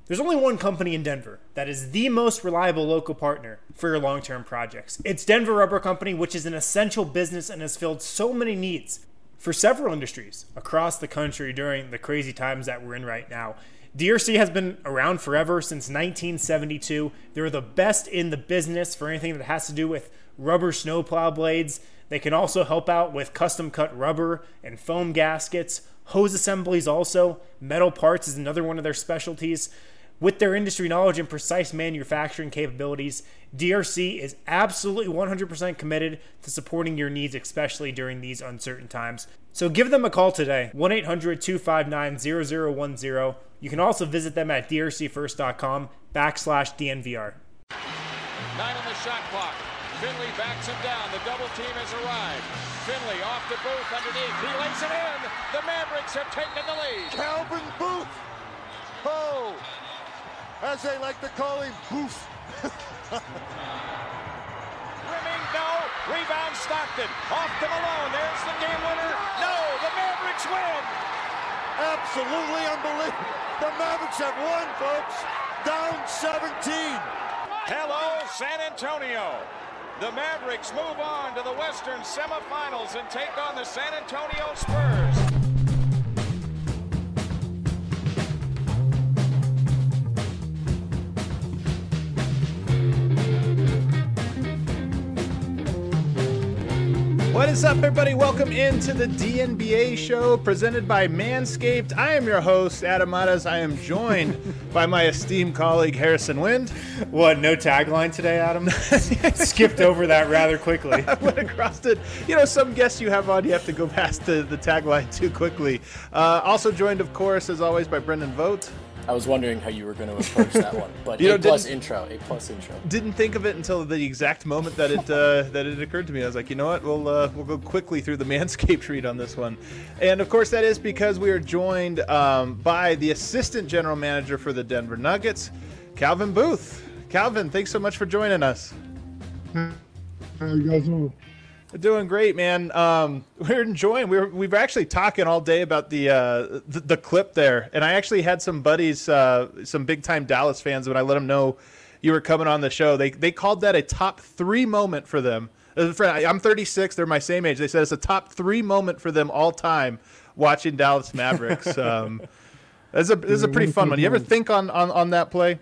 There's only one company in Denver that is the most reliable local partner for your long-term projects. It's Denver Rubber Company, which is an essential business and has filled so many needs for several industries across the country during the crazy times that we're in right now. DRC has been around forever, since 1972. They're the best in the business for anything that has to do with rubber snowplow blades. They can also help out with custom cut rubber and foam gaskets, hose assemblies also. Metal parts is another one of their specialties. With their industry knowledge and precise manufacturing capabilities, DRC is absolutely 100% committed to supporting your needs, especially during these uncertain times. So give them a call today, 1-800-259-0010. You can also visit them at drcfirst.com/DNVR. 9 on the shot clock. Finley backs him down. The double team has arrived. Finley off to Booth underneath. He lays it in. The Mavericks have taken the lead. Calvin Booth. Oh, as they like to call him, Booth. Rimming, no. Rebound Stockton. Off to Malone. There's the game winner. No, the Mavericks win. Absolutely unbelievable. The Mavericks have won, folks. Down 17. Hello, San Antonio. The Mavericks move on to the Western semifinals and take on the San Antonio Spurs. What is up, everybody? Welcome into the DNBA show presented by Manscaped. I am your host, Adam Matas. I am joined by my esteemed colleague, Harrison Wind. What, no tagline today, Adam? Skipped over that rather quickly. I went across it. You know, some guests you have on, you have to go past the tagline too quickly. Also joined, of course, as always, by Brendan Vogt. I was wondering how you were going to approach that one, but A plus intro. Didn't think of it until the exact moment that it occurred to me. I was like, you know what, we'll go quickly through the Manscaped read on this one, and of course that is because we are joined by the assistant general manager for the Denver Nuggets, Calvin Booth. Calvin, thanks so much for joining us. How you guys doing? Doing great, man. We're enjoying. We've actually talking all day about the clip there, and I actually had some buddies, some big time Dallas fans, when I let them know you were coming on the show. They called that a top 3 moment for them. I'm 36. They're my same age. They said it's a top 3 moment for them all time watching Dallas Mavericks. This is a pretty fun one. You ever think on that play?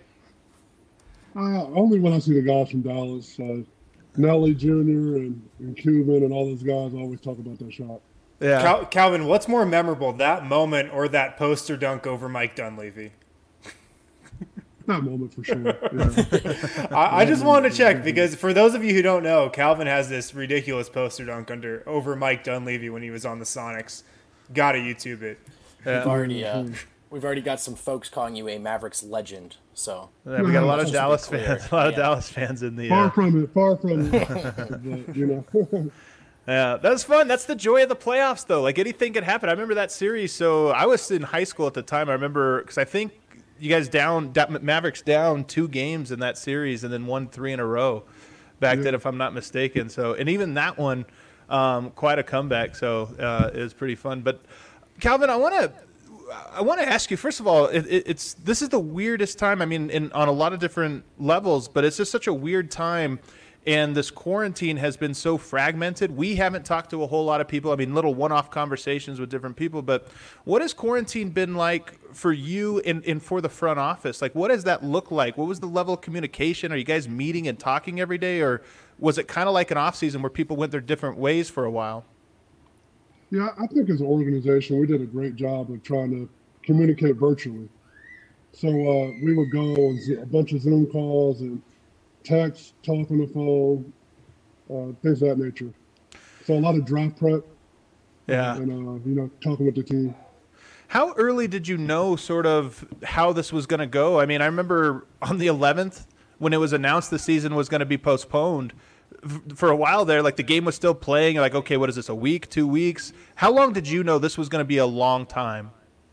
Only when I see the guys from Dallas. Nelly Jr. and Cuban and all those guys always talk about that shot. Yeah. Calvin, what's more memorable, that moment or that poster dunk over Mike Dunleavy? That moment for sure. Yeah. I just wanted to check, because for those of you who don't know, Calvin has this ridiculous poster dunk over Mike Dunleavy when he was on the Sonics. Gotta YouTube it. Yeah. We've already got some folks calling you a Mavericks legend. So yeah, we got a lot of Dallas fans. Dallas fans in the far from it. But, you know. Yeah, that's fun. That's the joy of the playoffs, though. Like, anything could happen. I remember that series. So I was in high school at the time. I remember, because I think you guys Mavericks down 2 games in that series and then won 3 in a row back then, if I'm not mistaken. So, and even that one, quite a comeback. So it was pretty fun. But Calvin, I want to ask you, first of all, this is the weirdest time. I mean, on a lot of different levels, but it's just such a weird time. And this quarantine has been so fragmented. We haven't talked to a whole lot of people. I mean, little one-off conversations with different people. But what has quarantine been like for you and for the front office? Like, what does that look like? What was the level of communication? Are you guys meeting and talking every day? Or was it kind of like an off-season where people went their different ways for a while? Yeah, I think as an organization, we did a great job of trying to communicate virtually. So we would go on a bunch of Zoom calls and text, talk on the phone, things of that nature. So a lot of draft prep. Yeah. And, talking with the team. How early did you know sort of how this was going to go? I mean, I remember on the 11th when it was announced the season was going to be postponed, for a while there, like the game was still playing. Like, okay, what is this, a week, 2 weeks? How long did you know this was going to be a long time?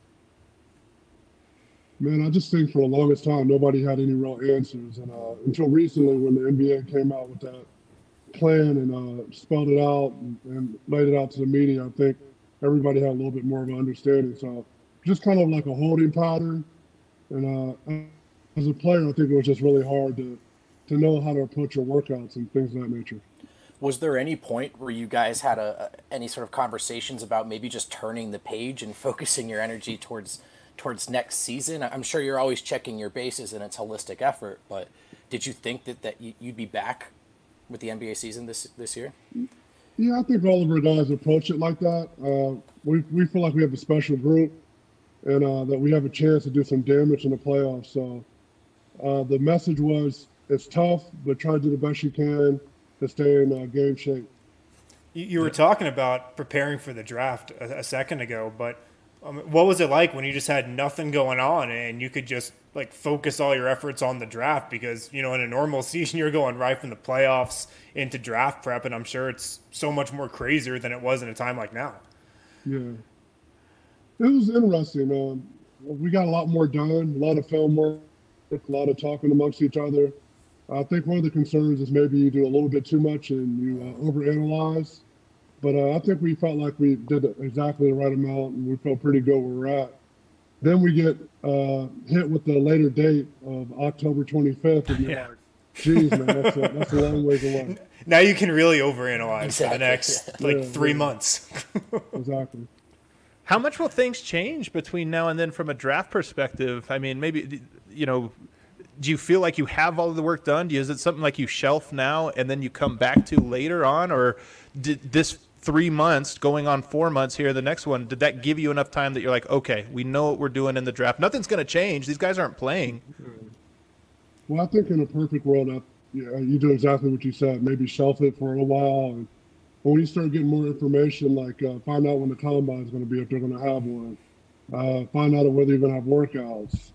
Man, I just think for the longest time, nobody had any real answers. And until recently, when the NBA came out with that plan and spelled it out and laid it out to the media, I think everybody had a little bit more of an understanding. So just kind of like a holding pattern. And as a player, I think it was just really hard to know how to approach your workouts and things of that nature. Was there any point where you guys had any sort of conversations about maybe just turning the page and focusing your energy towards next season? I'm sure you're always checking your bases and it's holistic effort, but did you think that you'd be back with the NBA season this year? Yeah, I think all of our guys approach it like that. We feel like we have a special group and that we have a chance to do some damage in the playoffs. So the message was, it's tough, but try to do the best you can to stay in game shape. You were talking about preparing for the draft a second ago, but what was it like when you just had nothing going on and you could just like focus all your efforts on the draft? Because, in a normal season, you're going right from the playoffs into draft prep, and I'm sure it's so much more crazier than it was in a time like now. Yeah. It was interesting. We got a lot more done, a lot of film work, a lot of talking amongst each other. I think one of the concerns is maybe you do a little bit too much and you overanalyze. But I think we felt like we did exactly the right amount, and we felt pretty good where we're at. Then we get hit with the later date of October 25th, and you're like, geez, man, that's a long ways away. Now you can really overanalyze for the next 3 months. Exactly. How much will things change between now and then from a draft perspective? I mean, maybe, do you feel like you have all of the work done? Is it something like you shelf now and then you come back to later on? Or did this 3 months going on 4 months here, the next one, did that give you enough time that you're like, okay, we know what we're doing in the draft. Nothing's going to change. These guys aren't playing. Well, I think in a perfect world, you do exactly what you said. Maybe shelf it for a little while. And when you start getting more information, like find out when the combine is going to be, if they're going to have one. Find out whether you're going to have workouts.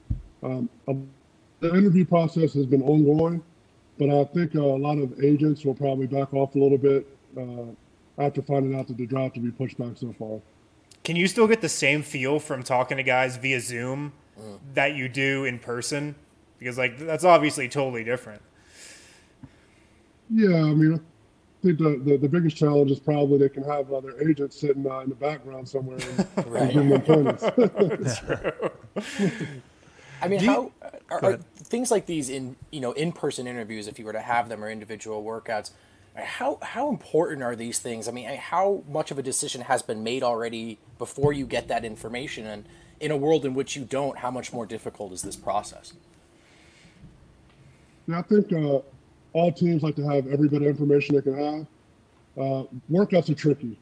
The interview process has been ongoing, but I think a lot of agents will probably back off a little bit after finding out that the draft will be pushed back so far. Can you still get the same feel from talking to guys via Zoom that you do in person? Because that's obviously totally different. Yeah, I mean, I think the biggest challenge is probably they can have other agents sitting in the background somewhere and give them pointers. I mean, how are things like these in-person interviews, if you were to have them, or individual workouts, how important are these things? I mean, how much of a decision has been made already before you get that information? And in a world in which you don't, how much more difficult is this process? Yeah, I think all teams like to have every bit of information they can have. Workouts are tricky.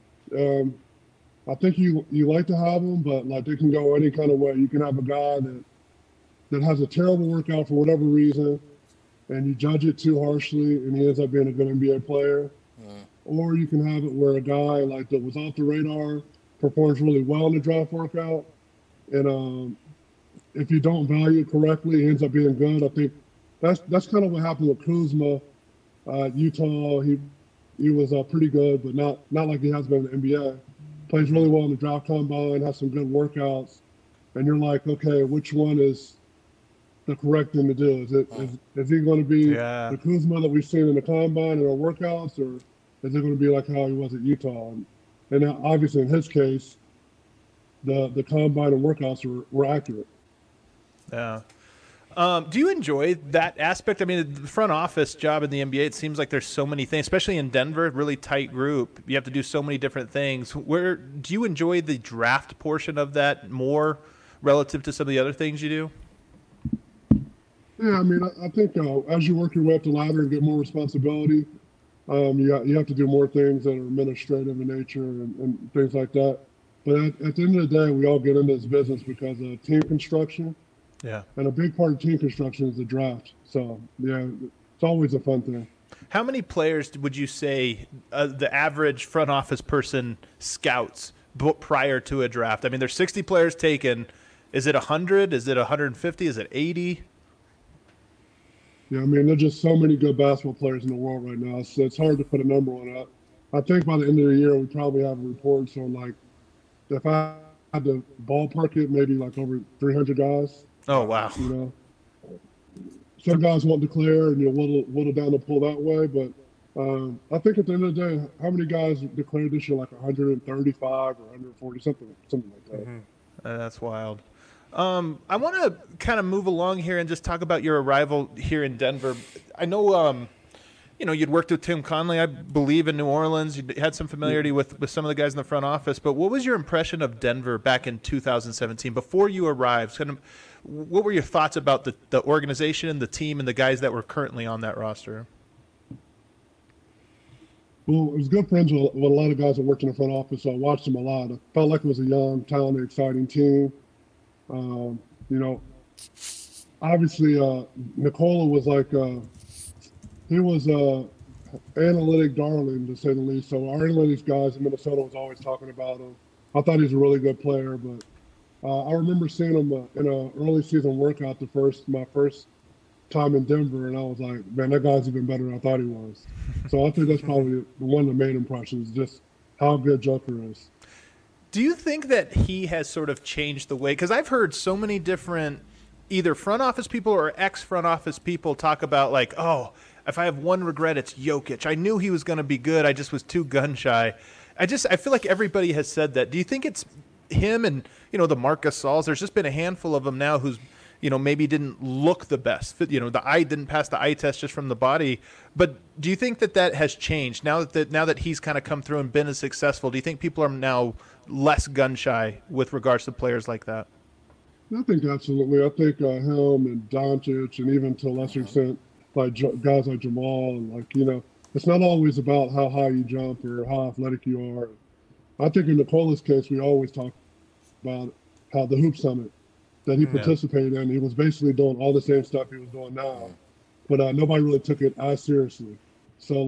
I think you like to have them, but they can go any kind of way. You can have a guy that has a terrible workout for whatever reason, and you judge it too harshly, and he ends up being a good NBA player. Or you can have it where a guy that was off the radar performs really well in the draft workout, and if you don't value it correctly, he ends up being good. I think that's kind of what happened with Kuzma. Utah, he was pretty good, but not like he has been in the NBA. Plays really well in the draft combine, has some good workouts, and you're like, okay, which one is the correct thing to do? Is he going to be the Kuzma that we've seen in the combine and our workouts, or is it going to be like how he was at Utah? And obviously, in his case, the combine and workouts were accurate. Yeah. Do you enjoy that aspect? I mean, the front office job in the NBA, it seems like there's so many things, especially in Denver, really tight group. You have to do so many different things. Where do you enjoy the draft portion of that more relative to some of the other things you do? Yeah, I mean, I think as you work your way up the ladder and get more responsibility, you have to do more things that are administrative in nature and things like that. But at the end of the day, we all get into this business because of team construction. Yeah. And a big part of team construction is the draft. So, yeah, it's always a fun thing. How many players would you say the average front office person scouts prior to a draft? I mean, there's 60 players taken. Is it 100? Is it 150? Is it 80? Yeah, I mean, there's just so many good basketball players in the world right now. So it's hard to put a number on that. I think by the end of the year, we probably have reports on, if I had to ballpark it, maybe over 300 guys. Oh, wow. Some guys won't declare and you'll whittle down the pool that way. But I think at the end of the day, how many guys declared this year? 135 or 140, something like that. That's wild. I want to kind of move along here and just talk about your arrival here in Denver. I know, you'd worked with Tim Connelly, I believe, in New Orleans. You had some familiarity with some of the guys in the front office. But what was your impression of Denver back in 2017 before you arrived? Kind of, what were your thoughts about the organization, the team, and the guys that were currently on that roster? Well, I was good friends with a lot of guys that worked in the front office, so I watched them a lot. I felt like it was a young, talented, exciting team. Obviously, Nikola was like, he was analytic darling, to say the least. So our analytics guys in Minnesota was always talking about him. I thought he was a really good player, but I remember seeing him in an early season workout my first time in Denver, and I was like, man, that guy's even better than I thought he was. So I think that's probably one of the main impressions, just how good Joker is. Do you think that he has sort of changed the way? Because I've heard so many different either front office people or ex-front office people talk about like, oh, if I have one regret, it's Jokic. I knew he was going to be good. I just was too gun-shy. I feel like everybody has said that. Do you think it's him and, the Marc Gasols? There's just been a handful of them now who's, maybe didn't look the best. The eye didn't pass the eye test just from the body. But do you think that has changed now that he's kind of come through and been as successful? Do you think people are now less gun shy with regards to players like that? I think absolutely. I think him and Doncic, and even to a lesser extent, like guys like Jamal, and it's not always about how high you jump or how athletic you are. I think in Nikola's case, we always talk about how the Hoop Summit that he participated in, he was basically doing all the same stuff he was doing now, but nobody really took it as seriously. So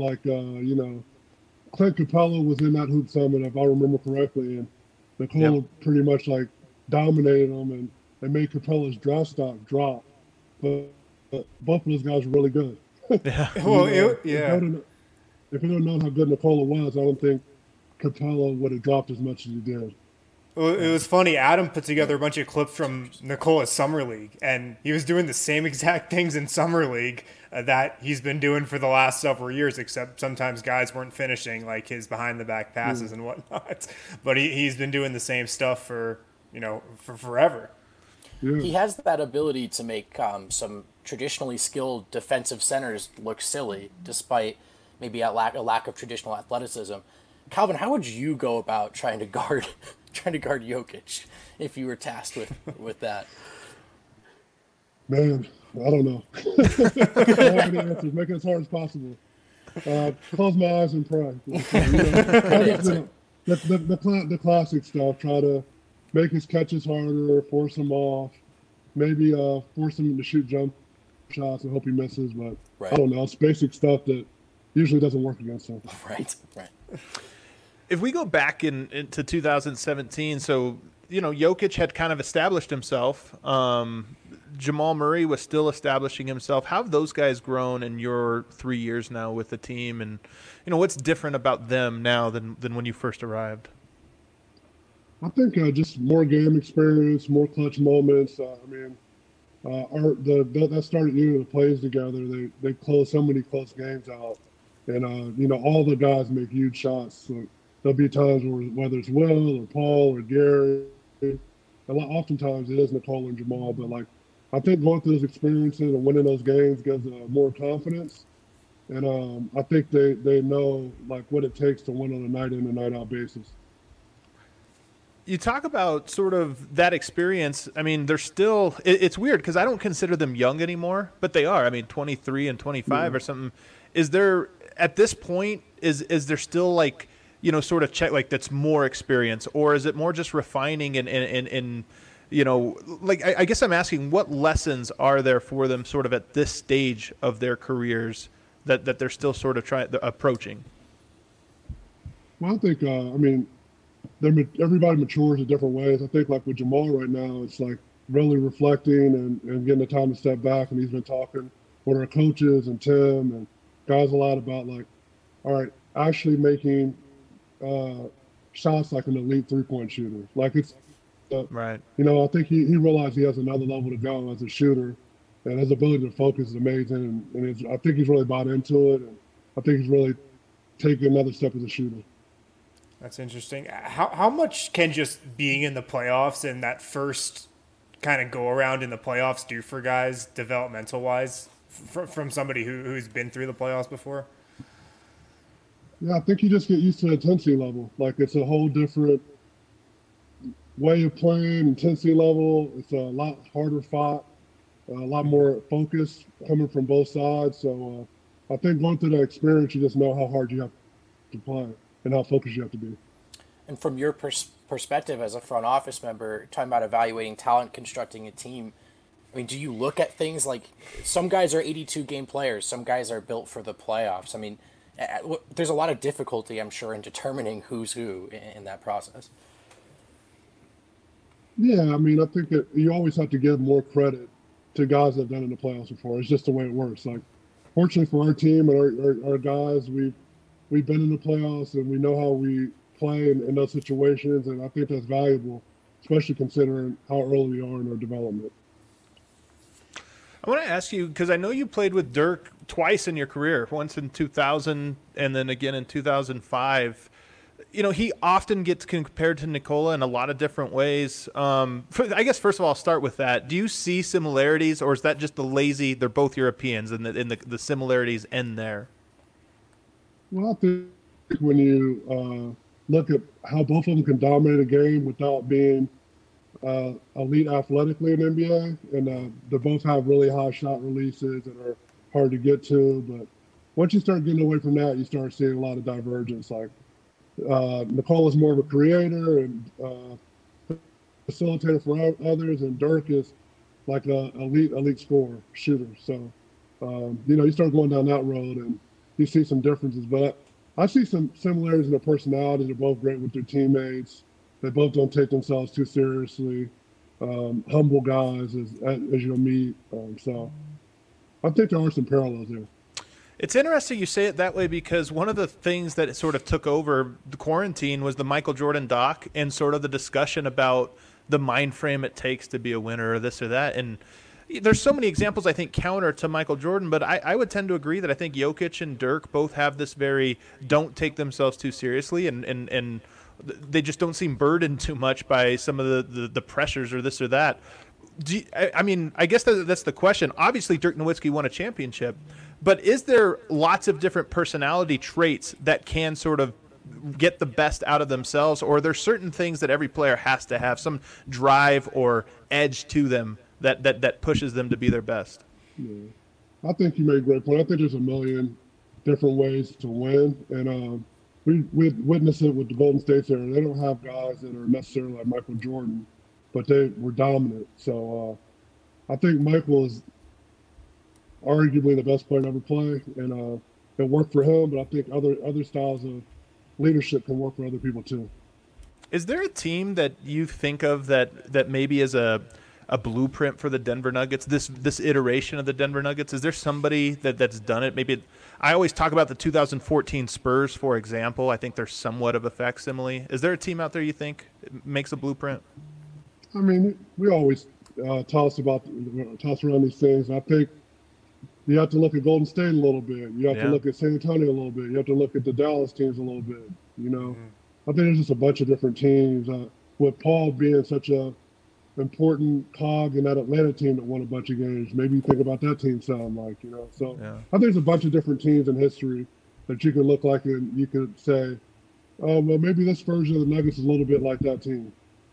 Clint Capella was in that Hoop Summit, if I remember correctly, and Nikola pretty much dominated him and made Capella's draft stock drop. But both of those guys were really good. Yeah. If you don't know how good Nikola was, I don't think Capella would have dropped as much as he did. Well, it was funny. Adam put together a bunch of clips from Nikola's Summer League, and he was doing the same exact things in Summer League that he's been doing for the last several years, except sometimes guys weren't finishing like his behind-the-back passes and whatnot. But he's been doing the same stuff for forever. Yeah. He has that ability to make some traditionally skilled defensive centers look silly, despite maybe a lack of traditional athleticism. Calvin, how would you go about trying to guard Jokic if you were tasked with that? Man, I don't know. I don't have any answers. Make it as hard as possible. Close my eyes and pray. The classic stuff. Try to make his catches harder, force him off, maybe force him to shoot jump shots and hope he misses. But right. I don't know. It's basic stuff that usually doesn't work against him. Right. If we go back into 2017, so Jokic had kind of established himself. Jamal Murray was still establishing himself. How have those guys grown in your 3 years now with the team, and what's different about them now than when you first arrived? I think just more game experience, more clutch moments. That started the plays together. They closed so many close games out, and all the guys make huge shots. So there'll be times whether it's Will or Paul or Gary, oftentimes it is Nikola and Jamal. But I think going through those experiences and winning those games gives more confidence, and I think they know what it takes to win on a night in and night out basis. You talk about sort of that experience. I mean, they're still – it's weird because I don't consider them young anymore, but they are. I mean, 23 and 25 or something. Is there – at this point, is there still sort of check that's more experience, or is it more just refining and I guess I'm asking what lessons are there for them sort of at this stage of their careers that they're still sort of approaching? Well, I think, everybody matures in different ways. I think with Jamal right now, it's really reflecting and getting the time to step back. And he's been talking with our coaches and Tim and guys a lot about all right, actually making shots like an elite 3-point shooter. It's right. I think he realized he has another level to go as a shooter, and his ability to focus is amazing. And I think he's really bought into it, and I think he's really taking another step as a shooter. That's interesting. How much can just being in the playoffs and that first kind of go around in the playoffs do for guys developmental wise from somebody who's been through the playoffs before? Yeah, I think you just get used to the intensity level. Like, it's a whole different way of playing, intensity level. It's a lot harder fought, a lot more focus coming from both sides. So I think going through that experience, you just know how hard you have to play and how focused you have to be. And from your perspective as a front office member, talking about evaluating talent, constructing a team, I mean, do you look at things like some guys are 82-game players, some guys are built for the playoffs? I mean, there's a lot of difficulty, I'm sure, in determining who's who in that process. Yeah, I mean, I think that you always have to give more credit to guys that have done it in the playoffs before. It's just the way it works. Like, fortunately for our team and our guys, we've been in the playoffs and we know how we play in those situations, and I think that's valuable, especially considering how early we are in our development. I want to ask you, because I know you played with Dirk twice in your career, once in 2000 and then again in 2005. You know, he often gets compared to Nikola in a lot of different ways. I guess, first of all, I'll start with that. Do you see similarities, or is that just they're both Europeans, and the similarities end there? Well, I think when you look at how both of them can dominate a game without being elite athletically in the NBA, and they both have really high shot releases that are hard to get to. But once you start getting away from that, you start seeing a lot of divergence. Like, Nicole is more of a creator and facilitator for others, and Dirk is like an elite scorer, shooter. So, you start going down that road and you see some differences. But I see some similarities in their personalities. They're both great with their teammates. They both don't take themselves too seriously. Humble guys as you'll meet. So I think there are some parallels there. It's interesting you say it that way, because one of the things that sort of took over the quarantine was the Michael Jordan doc and sort of the discussion about the mind frame it takes to be a winner, or this or that. And there's so many examples, I think, counter to Michael Jordan, but I would tend to agree that I think Jokic and Dirk both have this very don't take themselves too seriously, and they just don't seem burdened too much by some of the pressures or this or that. I guess that's the question. Obviously, Dirk Nowitzki won a championship, but is there lots of different personality traits that can sort of get the best out of themselves, or are there certain things that every player has to have, some drive or edge to them that pushes them to be their best? Yeah. I think you made a great point. I think there's a million different ways to win, and we witnessed it with the Golden State era. They don't have guys that are necessarily like Michael Jordan, but they were dominant. So I think Michael is arguably the best player to ever play, and it worked for him, but I think other styles of leadership can work for other people too. Is there a team that you think of that maybe is a blueprint for the Denver Nuggets, this iteration of the Denver Nuggets? Is there somebody that's done it? Maybe I always talk about the 2014 Spurs, for example. I think they're somewhat of a facsimile. Is there a team out there you think makes a blueprint? I mean, we always toss around these things. I think you have to look at Golden State a little bit. You have to look at San Antonio a little bit. You have to look at the Dallas teams a little bit. I think there's just a bunch of different teams. With Paul being such a important cog in that Atlanta team that won a bunch of games, maybe you think about that team sound like, So I think there's a bunch of different teams in history that you could look like and you could say, oh, well, maybe this version of the Nuggets is a little bit like that team.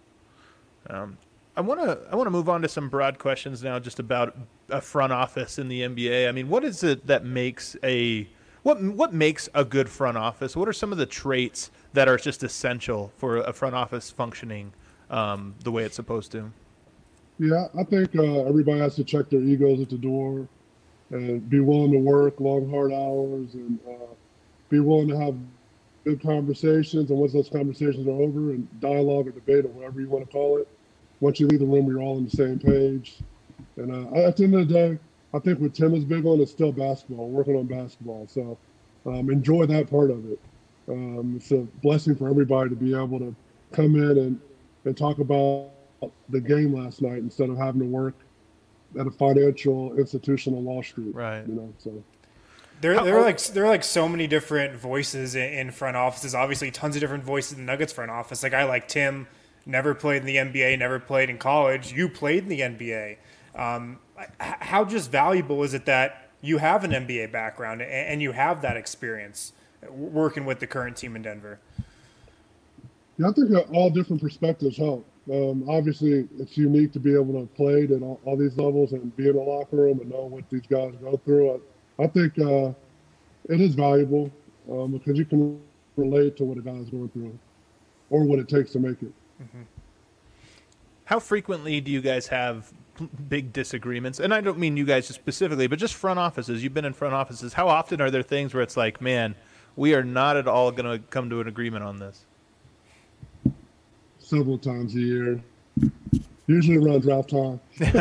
I want to move on to some broad questions now, just about a front office in the NBA. I mean, what is it that makes what makes a good front office? What are some of the traits that are just essential for a front office functioning the way it's supposed to? Yeah, I think everybody has to check their egos at the door and be willing to work long, hard hours, and be willing to have good conversations. And once those conversations are over, and dialogue or debate or whatever you want to call it, once you leave the room, you're all on the same page. And at the end of the day, I think what Tim is big on is still basketball, working on basketball. So enjoy that part of it. It's a blessing for everybody to be able to come in and talk about the game last night instead of having to work at a financial institution on Wall Street. Right. So. There are like so many different voices in front offices. Obviously, tons of different voices in the Nuggets front office. Like, I like Tim. never played in the NBA, never played in college. You played in the NBA. How just valuable is it that you have an NBA background and you have that experience working with the current team in Denver? Yeah, I think all different perspectives help. Obviously, it's unique to be able to play at all these levels and be in the locker room and know what these guys go through. I think it is valuable because you can relate to what a guy's going through or what it takes to make it. Mm-hmm. How frequently do you guys have big disagreements? And I don't mean you guys specifically, but just front offices. You've been in front offices. How often are there things where it's like, man, we are not at all going to come to an agreement on this? Several times a year, usually around draft time.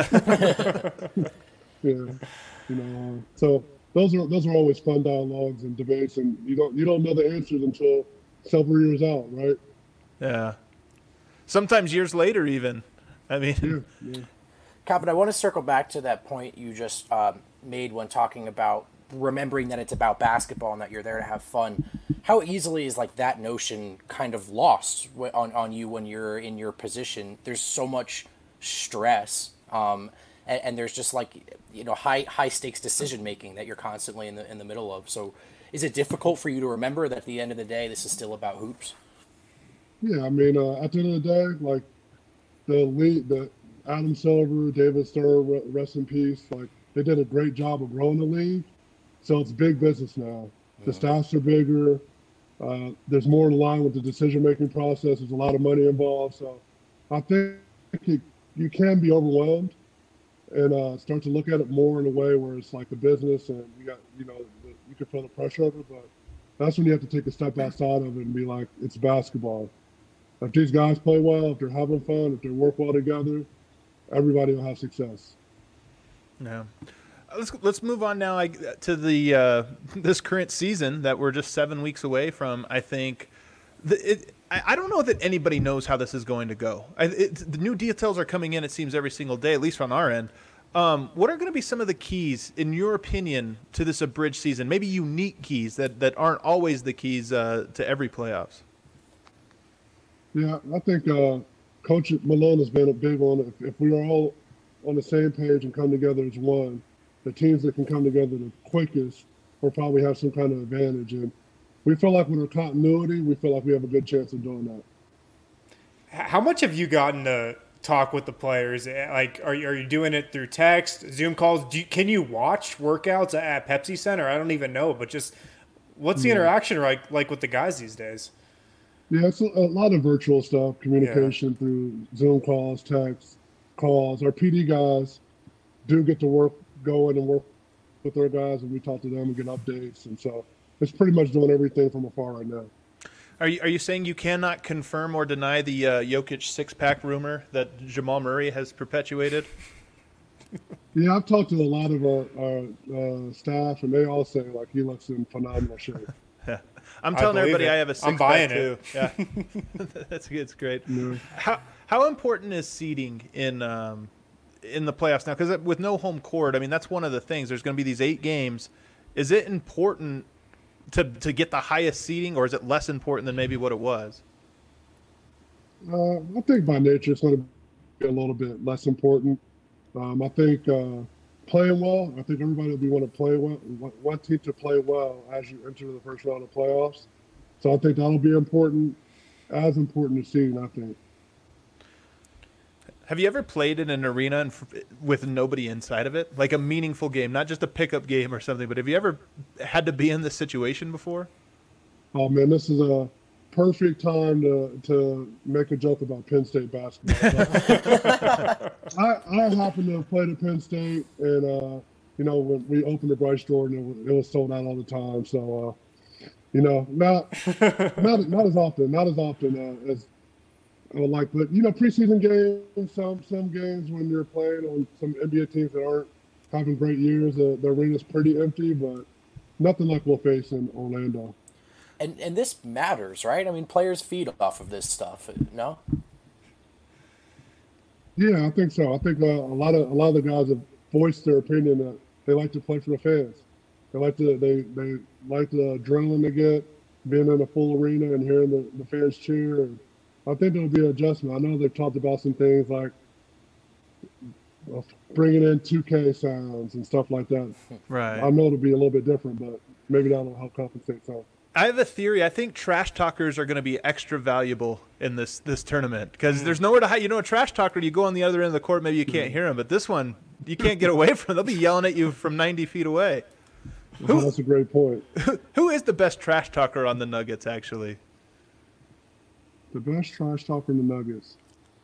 So those are always fun dialogues and debates, and you don't know the answers until several years out, right? Yeah. Sometimes years later, even. I mean, yeah. Coppin, I want to circle back to that point you just made when talking about remembering that it's about basketball and that you're there to have fun. How easily is like that notion kind of lost on you when you're in your position? There's so much stress, and there's just like, you know, high stakes decision making that you're constantly in the middle of. So, is it difficult for you to remember that at the end of the day, this is still about hoops? Yeah, I mean, at the end of the day, like the Adam Silver, David Stern, rest in peace. Like they did a great job of growing the league, so it's big business now. The staffs are bigger. There's more in line with the decision-making process. There's a lot of money involved. So I think you can be overwhelmed and start to look at it more in a way where it's like a business and you can feel the pressure of it. But that's when you have to take a step outside of it and be like, it's basketball. If these guys play well, if they're having fun, if they work well together, everybody will have success. Yeah. Let's move on now to the this current season that we're just 7 weeks away from. I think I don't know that anybody knows how this is going to go. The new details are coming in, it seems, every single day, at least on our end. What are going to be some of the keys, in your opinion, to this abridged season? Maybe unique keys that aren't always the keys to every playoffs. Yeah, I think Coach Malone has been a big one. If we are all on the same page and come together as one, the teams that can come together the quickest will probably have some kind of advantage. And we feel like with our continuity, we feel like we have a good chance of doing that. How much have you gotten to talk with the players? Like, are you doing it through text, Zoom calls? Can you watch workouts at Pepsi Center? I don't even know, but just what's the interaction like with the guys these days? Yeah, it's a lot of virtual stuff, communication through Zoom calls, text calls. Our PD guys do get to go in and work with their guys, and we talk to them and get updates. And so it's pretty much doing everything from afar right now. Are you saying you cannot confirm or deny the Jokic six-pack rumor that Jamal Murray has perpetuated? Yeah, I've talked to a lot of our staff, and they all say like he looks in phenomenal shape. I'm telling everybody I have a six-pack too. Yeah, that's good. It's great. Yeah. How important is seeding in the playoffs now? Because with no home court, I mean that's one of the things. There's going to be these 8 games. Is it important to get the highest seeding, or is it less important than maybe what it was? I think by nature it's going to be a little bit less important. I think playing well, I think everybody will want to play well, want team to play well as you enter the first round of playoffs. So I think that'll be important, as important as seeding, I think. Have you ever played in an arena with nobody inside of it? Like a meaningful game, not just a pickup game or something, but have you ever had to be in this situation before? Oh, man, this is a perfect time to make a joke about Penn State basketball. I happen to have played at Penn State, and, when we opened the Bryce Jordan, it was sold out all the time. So, not as often as I would like, but preseason games, some games when you're playing on some NBA teams that aren't having great years, the arena's pretty empty, but nothing like we'll face in Orlando. And this matters, right? I mean, players feed off of this stuff, no? Yeah, I think so. I think a lot of the guys have voiced their opinion that they like to play for the fans. They like the adrenaline they get being in a full arena and hearing the fans cheer. And I think there'll be an adjustment. I know they've talked about some things like bringing in 2K sounds and stuff like that. Right. I know it'll be a little bit different, but maybe that'll help compensate some. I have a theory. I think trash talkers are going to be extra valuable in this tournament because there's nowhere to hide. You know, a trash talker, you go on the other end of the court, maybe you can't hear them, but this one, you can't get away from. They'll be yelling at you from 90 feet away. That's a great point. Who is the best trash talker on the Nuggets, actually? The best trash talker in the Nuggets.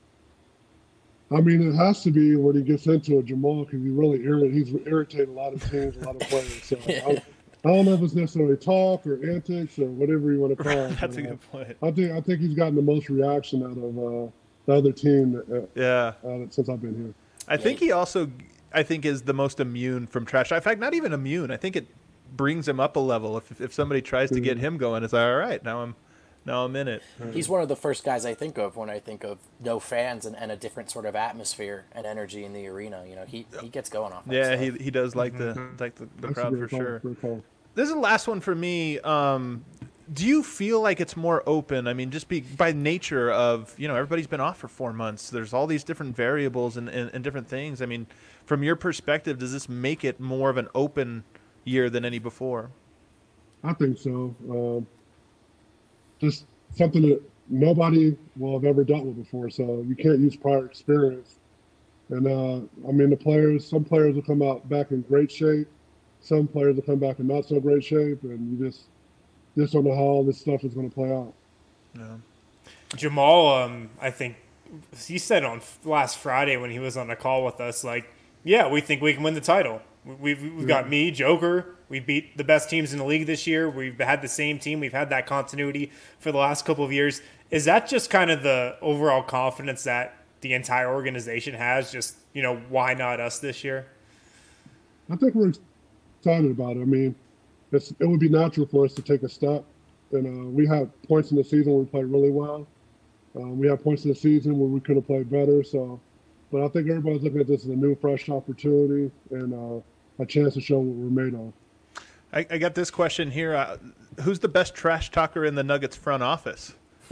I mean, it has to be when he gets into it, Jamal, because he's irritated a lot of teams, a lot of players. So I don't know if it's necessarily talk or antics or whatever you want to call it. That's a good point. I think he's gotten the most reaction out of the other team since I've been here. I think he also, is the most immune from trash. In fact, not even immune. I think it brings him up a level. If somebody tries to get him going, it's like, all right, now I'm in it. He's one of the first guys I think of when I think of no fans and a different sort of atmosphere and energy in the arena. You know, he gets going off that stuff. He does like the crowd for sure. This is the last one for me. Do you feel like it's more open? I mean, just by nature of, everybody's been off for 4 months. There's all these different variables and different things. I mean, from your perspective, does this make it more of an open year than any before? I think so. Just something that nobody will have ever dealt with before. So you can't use prior experience. And, some players will come out back in great shape. Some players will come back in not so great shape. And you just don't know how all this stuff is going to play out. Yeah. Jamal, I think he said on last Friday when he was on a call with us, we think we can win the title. We've got me, Joker. We beat the best teams in the league this year. We've had the same team. We've had that continuity for the last couple of years. Is that just kind of the overall confidence that the entire organization has? Just, why not us this year? I think we're excited about it. I mean, it would be natural for us to take a step. And we had points in the season where we played really well. We had points in the season where we could have played better. But I think everybody's looking at this as a new, fresh opportunity and a chance to show what we're made of. I got this question here. Who's the best trash talker in the Nuggets front office?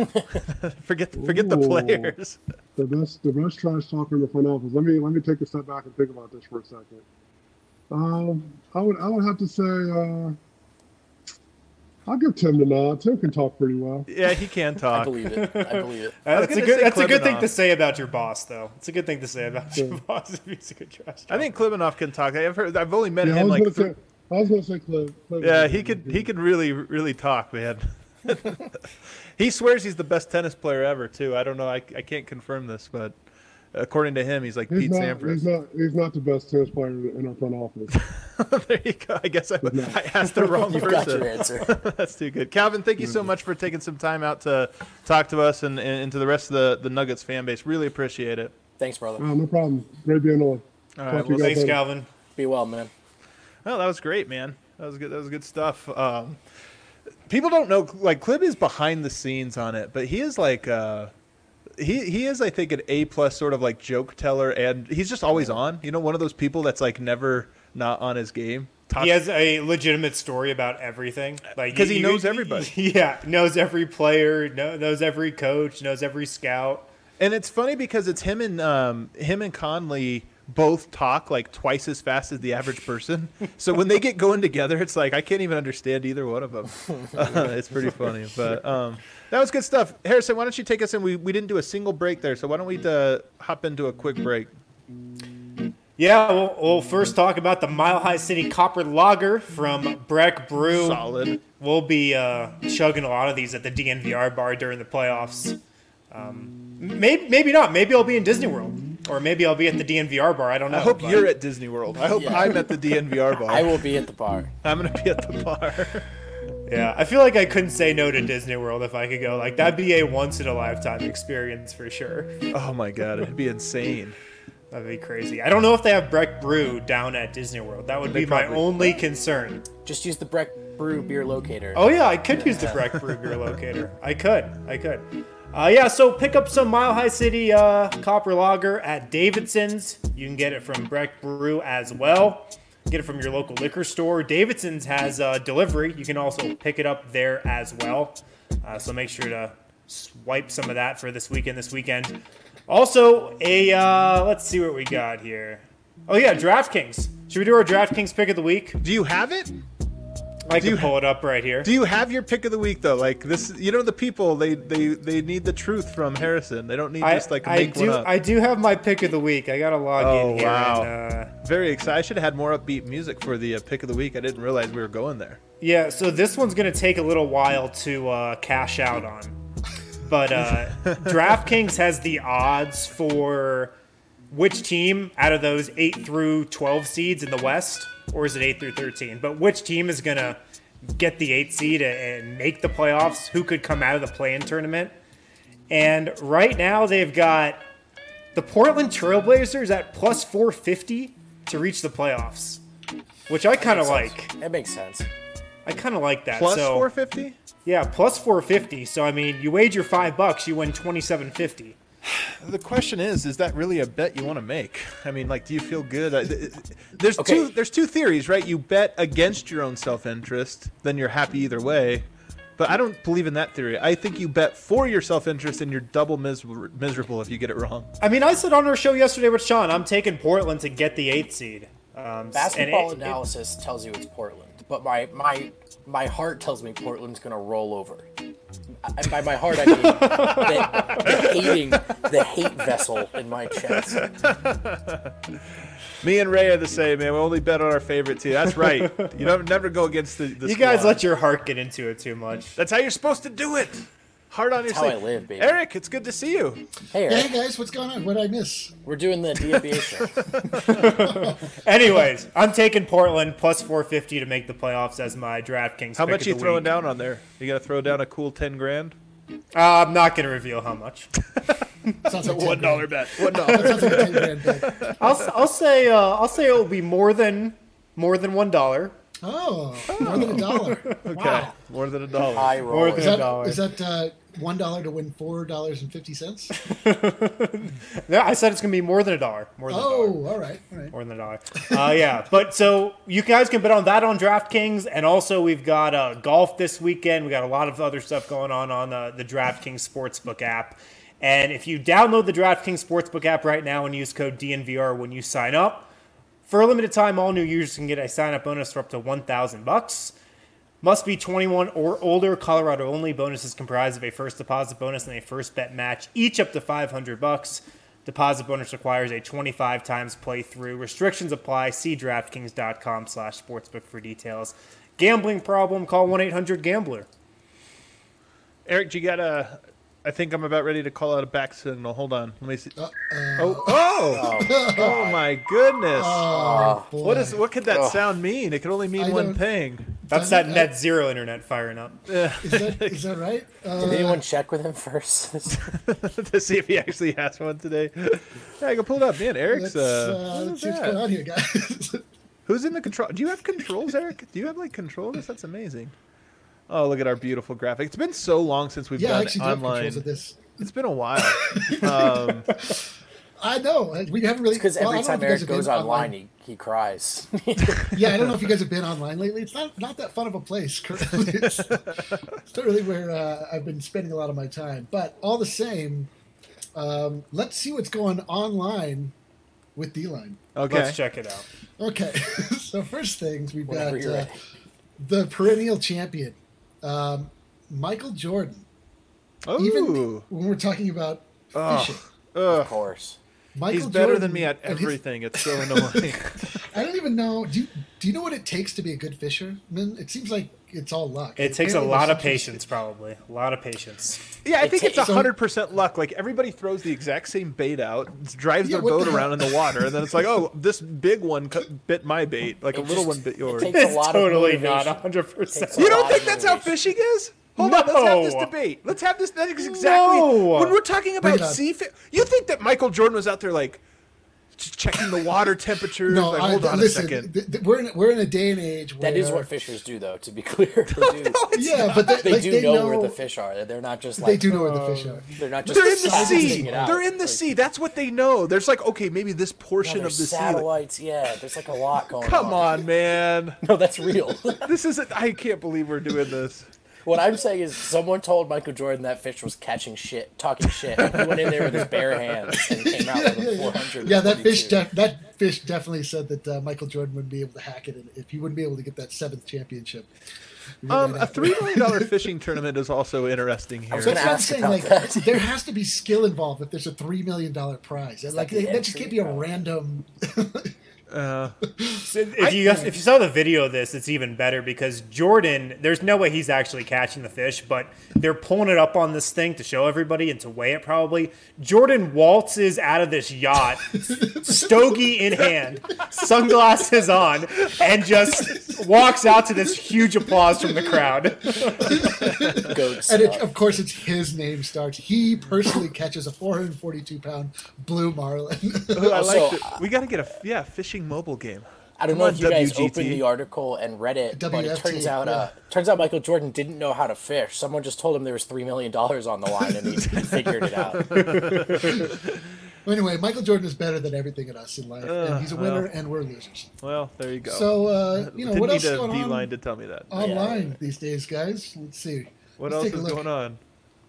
Forget the players. The best trash talker in the front office. Let me take a step back and think about this for a second. I would have to say I'll give Tim the nod. Tim can talk pretty well. Yeah, he can talk. I believe it. That's a good thing to say about your boss, though. It's a good thing to say about your boss if he's a good trash talker. I think Klibanoff can talk. I've only met him I was going to say Clib. Yeah, he could really, really talk, man. He swears he's the best tennis player ever, too. I don't know. I can't confirm this, but according to him, he's like Pete Sampras. He's not the best tennis player in our front office. There you go. I guess I asked the wrong person. You've got your answer. That's too good. Calvin, thank you so much for taking some time out to talk to us and to the rest of the Nuggets fan base. Really appreciate it. Thanks, brother. No problem. Great being on. All right. Well, thanks, Calvin. Be well, man. Well, that was great, man. That was good. That was good stuff. People don't know, Clib is behind the scenes on it, but he is he is, I think, an A+ sort of joke teller, and he's just always on. One of those people that's never not on his game. He has a legitimate story about everything. Because he knows everybody. Yeah, knows every player, knows every coach, knows every scout. And it's funny because it's him and Conley both talk twice as fast as the average person. So when they get going together, it's I can't even understand either one of them. It's pretty funny. But that was good stuff. Harrison, why don't you take us in? We didn't do a single break there, so why don't we hop into a quick break? Yeah, we'll first talk about the Mile High City Copper Lager from Breck Brew. Solid. We'll be chugging a lot of these at the DNVR bar during the playoffs. Maybe not. Maybe I'll be in Disney World. Or maybe I'll be at the DNVR bar. I don't know. I hope you're at Disney World. I hope I'm at the DNVR bar. I will be at the bar. I'm going to be at the bar. Yeah, I feel like I couldn't say no to Disney World if I could go. That'd be a once-in-a-lifetime experience for sure. Oh, my God. It'd be insane. That'd be crazy. I don't know if they have Breck Brew down at Disney World. That would be my only concern. Just use the Breck Brew beer locator. Oh, yeah, I could use the Breck Brew beer locator. I could. So pick up some Mile High City Copper Lager at Davidson's. You can get it from Breck Brew as well. Get it from your local liquor store. Davidson's has delivery. You can also pick it up there as well. So make sure to swipe some of that for this weekend. Also, let's see what we got here. Oh yeah, DraftKings. Should we do our DraftKings pick of the week? Do you have it? I can pull it up right here. Do you have your pick of the week though? Like this, the people they need the truth from Harrison. They don't need just like make one up. I do have my pick of the week. I gotta log in here. Wow. And, very excited. I should have had more upbeat music for the pick of the week. I didn't realize we were going there. yeah, so this one's gonna take a little while to cash out on, but DraftKings has the odds for which team out of those 8 through 12 seeds in the West. Or is it 8 through 13? But which team is going to get the 8 seed and make the playoffs? Who could come out of the play-in tournament? And right now they've got the Portland Trailblazers at plus 450 to reach the playoffs, which I kind of like. That makes sense. I kind of like that. Plus so, 450? Yeah, plus 450. So, I mean, you wager $5, you win $27.50. The question is that really a bet you want to make? I mean, like, do you feel good? There's two theories, right? You bet against your own self-interest, then you're happy either way. But I don't believe in that theory. I think you bet for your self-interest and you're double miserable if you get it wrong. I mean, I said on our show yesterday with Sean, I'm taking Portland to get the 8th seed. Basketball analysis tells you it's Portland, but my heart tells me Portland's going to roll over. And by my heart, I mean the hate vessel in my chest. Me and Ray are the same, man. We only bet on our favorite team. That's right. You don't never go against the You guys let your heart get into it too much. That's how you're supposed to do it. Heart on your sleeve. That's how I live, baby. Eric, it's good to see you. Hey, Eric. Hey guys, what's going on? What did I miss? We're doing the DNVR show. Anyways, I'm taking Portland plus 450 to make the playoffs as my DraftKings. How pick much of you the throwing week. down on there? You got to throw down a cool 10 grand? I'm not going to reveal how much. Sounds like $1 bet. $1. That sounds like a 10 grand bet. I'll say it will be more than $1. Oh, more than $1. Okay, Wow. more than $1. High More roller. than Is that $1 to win $4.50? Yeah, I said it's going to be more than $1. More than $1. Oh, all right. More than $1. Yeah, but so you guys can bet on that on DraftKings, and also we've got golf this weekend. We got a lot of other stuff going on the DraftKings Sportsbook app. And if you download the DraftKings Sportsbook app right now and use code DNVR when you sign up, for a limited time, all new users can get a sign-up bonus for up to $1,000. Must be 21 or older. Colorado only. Bonus is comprised of a first deposit bonus and a first bet match, each up to $500. Deposit bonus requires a 25 times playthrough. Restrictions apply. See DraftKings.com/sportsbook for details. Gambling problem? Call 1-800-GAMBLER. Eric, you got a... I think I'm about ready to call out a back signal. Hold on. Let me see. Oh my goodness. Oh, boy. What could that sound mean? It could only mean one thing. That's that net zero internet firing up. Is that right? Did anyone check with him first? To see if he actually has one today. Yeah, I can pull it up. Man, Eric's... Let's see what's going on here, guys. Who's in the control? Do you have controls, Eric? Do you have controls? That's amazing. Oh, look at our beautiful graphic. It's been so long since we've done I online. controls of this. It's been a while. I know. We haven't really... Because every time Eric goes online, he cries. Yeah, I don't know if you guys have been online lately. It's not that fun of a place currently. It's not really where I've been spending a lot of my time. But all the same, let's see what's going online with D-Line. Okay. Let's check it out. Okay. So first things, we've Whenever got you're ready. the perennial champion, Michael Jordan. Oh. Even when we're talking about fishing. Of course. Michael He's better Jordan than me at and his- everything. It's so annoying. I don't even know. Do you know what it takes to be a good fisherman? It seems like it's all luck. It takes a Apparently lot there's of some patience, probably. A lot of patience. Yeah, I think it's takes- 100% luck. Like, everybody throws the exact same bait out, drives Yeah, their what boat the hell? around in the water, and then it's like, oh, this big one bit my bait. Like, a It little just- one bit yours. it takes a It's lot totally of not motivation. 100%. Takes a You don't lot think of that's how motivation. fishing is? Hold on, let's have this No. debate. Let's have this. That is exactly No. when we're talking about Bring it on. sea fish. You think that Michael Jordan was out there like just checking the water temperatures? No, like, hold on listen. a second. We're in a day and age where That is what fishers do, though, to be clear. They do, Yeah, but they do know where the fish are. They're not just like... They do know where the fish are. They're not just They're in the sizing sea. it out. They're in the Like, sea. That's what they know. There's like, okay, maybe this yeah, portion of there's the sea. Like, satellites. Yeah, there's like a lot going on. come on, man. No, that's real. This isn't. I can't believe we're doing this. What I'm saying is, someone told Michael Jordan that fish was talking shit. And he went in there with his bare hands and came out with a 400. Yeah, that fish definitely said that Michael Jordan wouldn't be able to hack it if he wouldn't be able to get that 7th championship. A $3 million fishing tournament is also interesting here. was That's gonna what I'm ask saying. about Like, that. there has to be skill involved if there's a $3 million prize. Like, the that just can't be a entry, random. If you saw the video of this, it's even better because Jordan, there's no way he's actually catching the fish, but they're pulling it up on this thing to show everybody and to weigh it probably. Jordan waltzes out of this yacht, stogie in hand, sunglasses on, and just walks out to this huge applause from the crowd. Goat And stuff. of course, it's his name starts. He personally catches a 442-pound blue marlin. I like Also, it. We got to get a fishing mobile game. I don't Come know on, if you guys WGT. opened the article and read it, but it WFT, turns out Michael Jordan didn't know how to fish. Someone just told him there was $3 million on the line, and he figured it out. Anyway, Michael Jordan is better than everything in us in life, and he's a winner, and we're losers. Well, there you go. So, Didn't what else need is a going D-line on to tell me that. online these days, guys? Let's see. What Let's else take a is look. going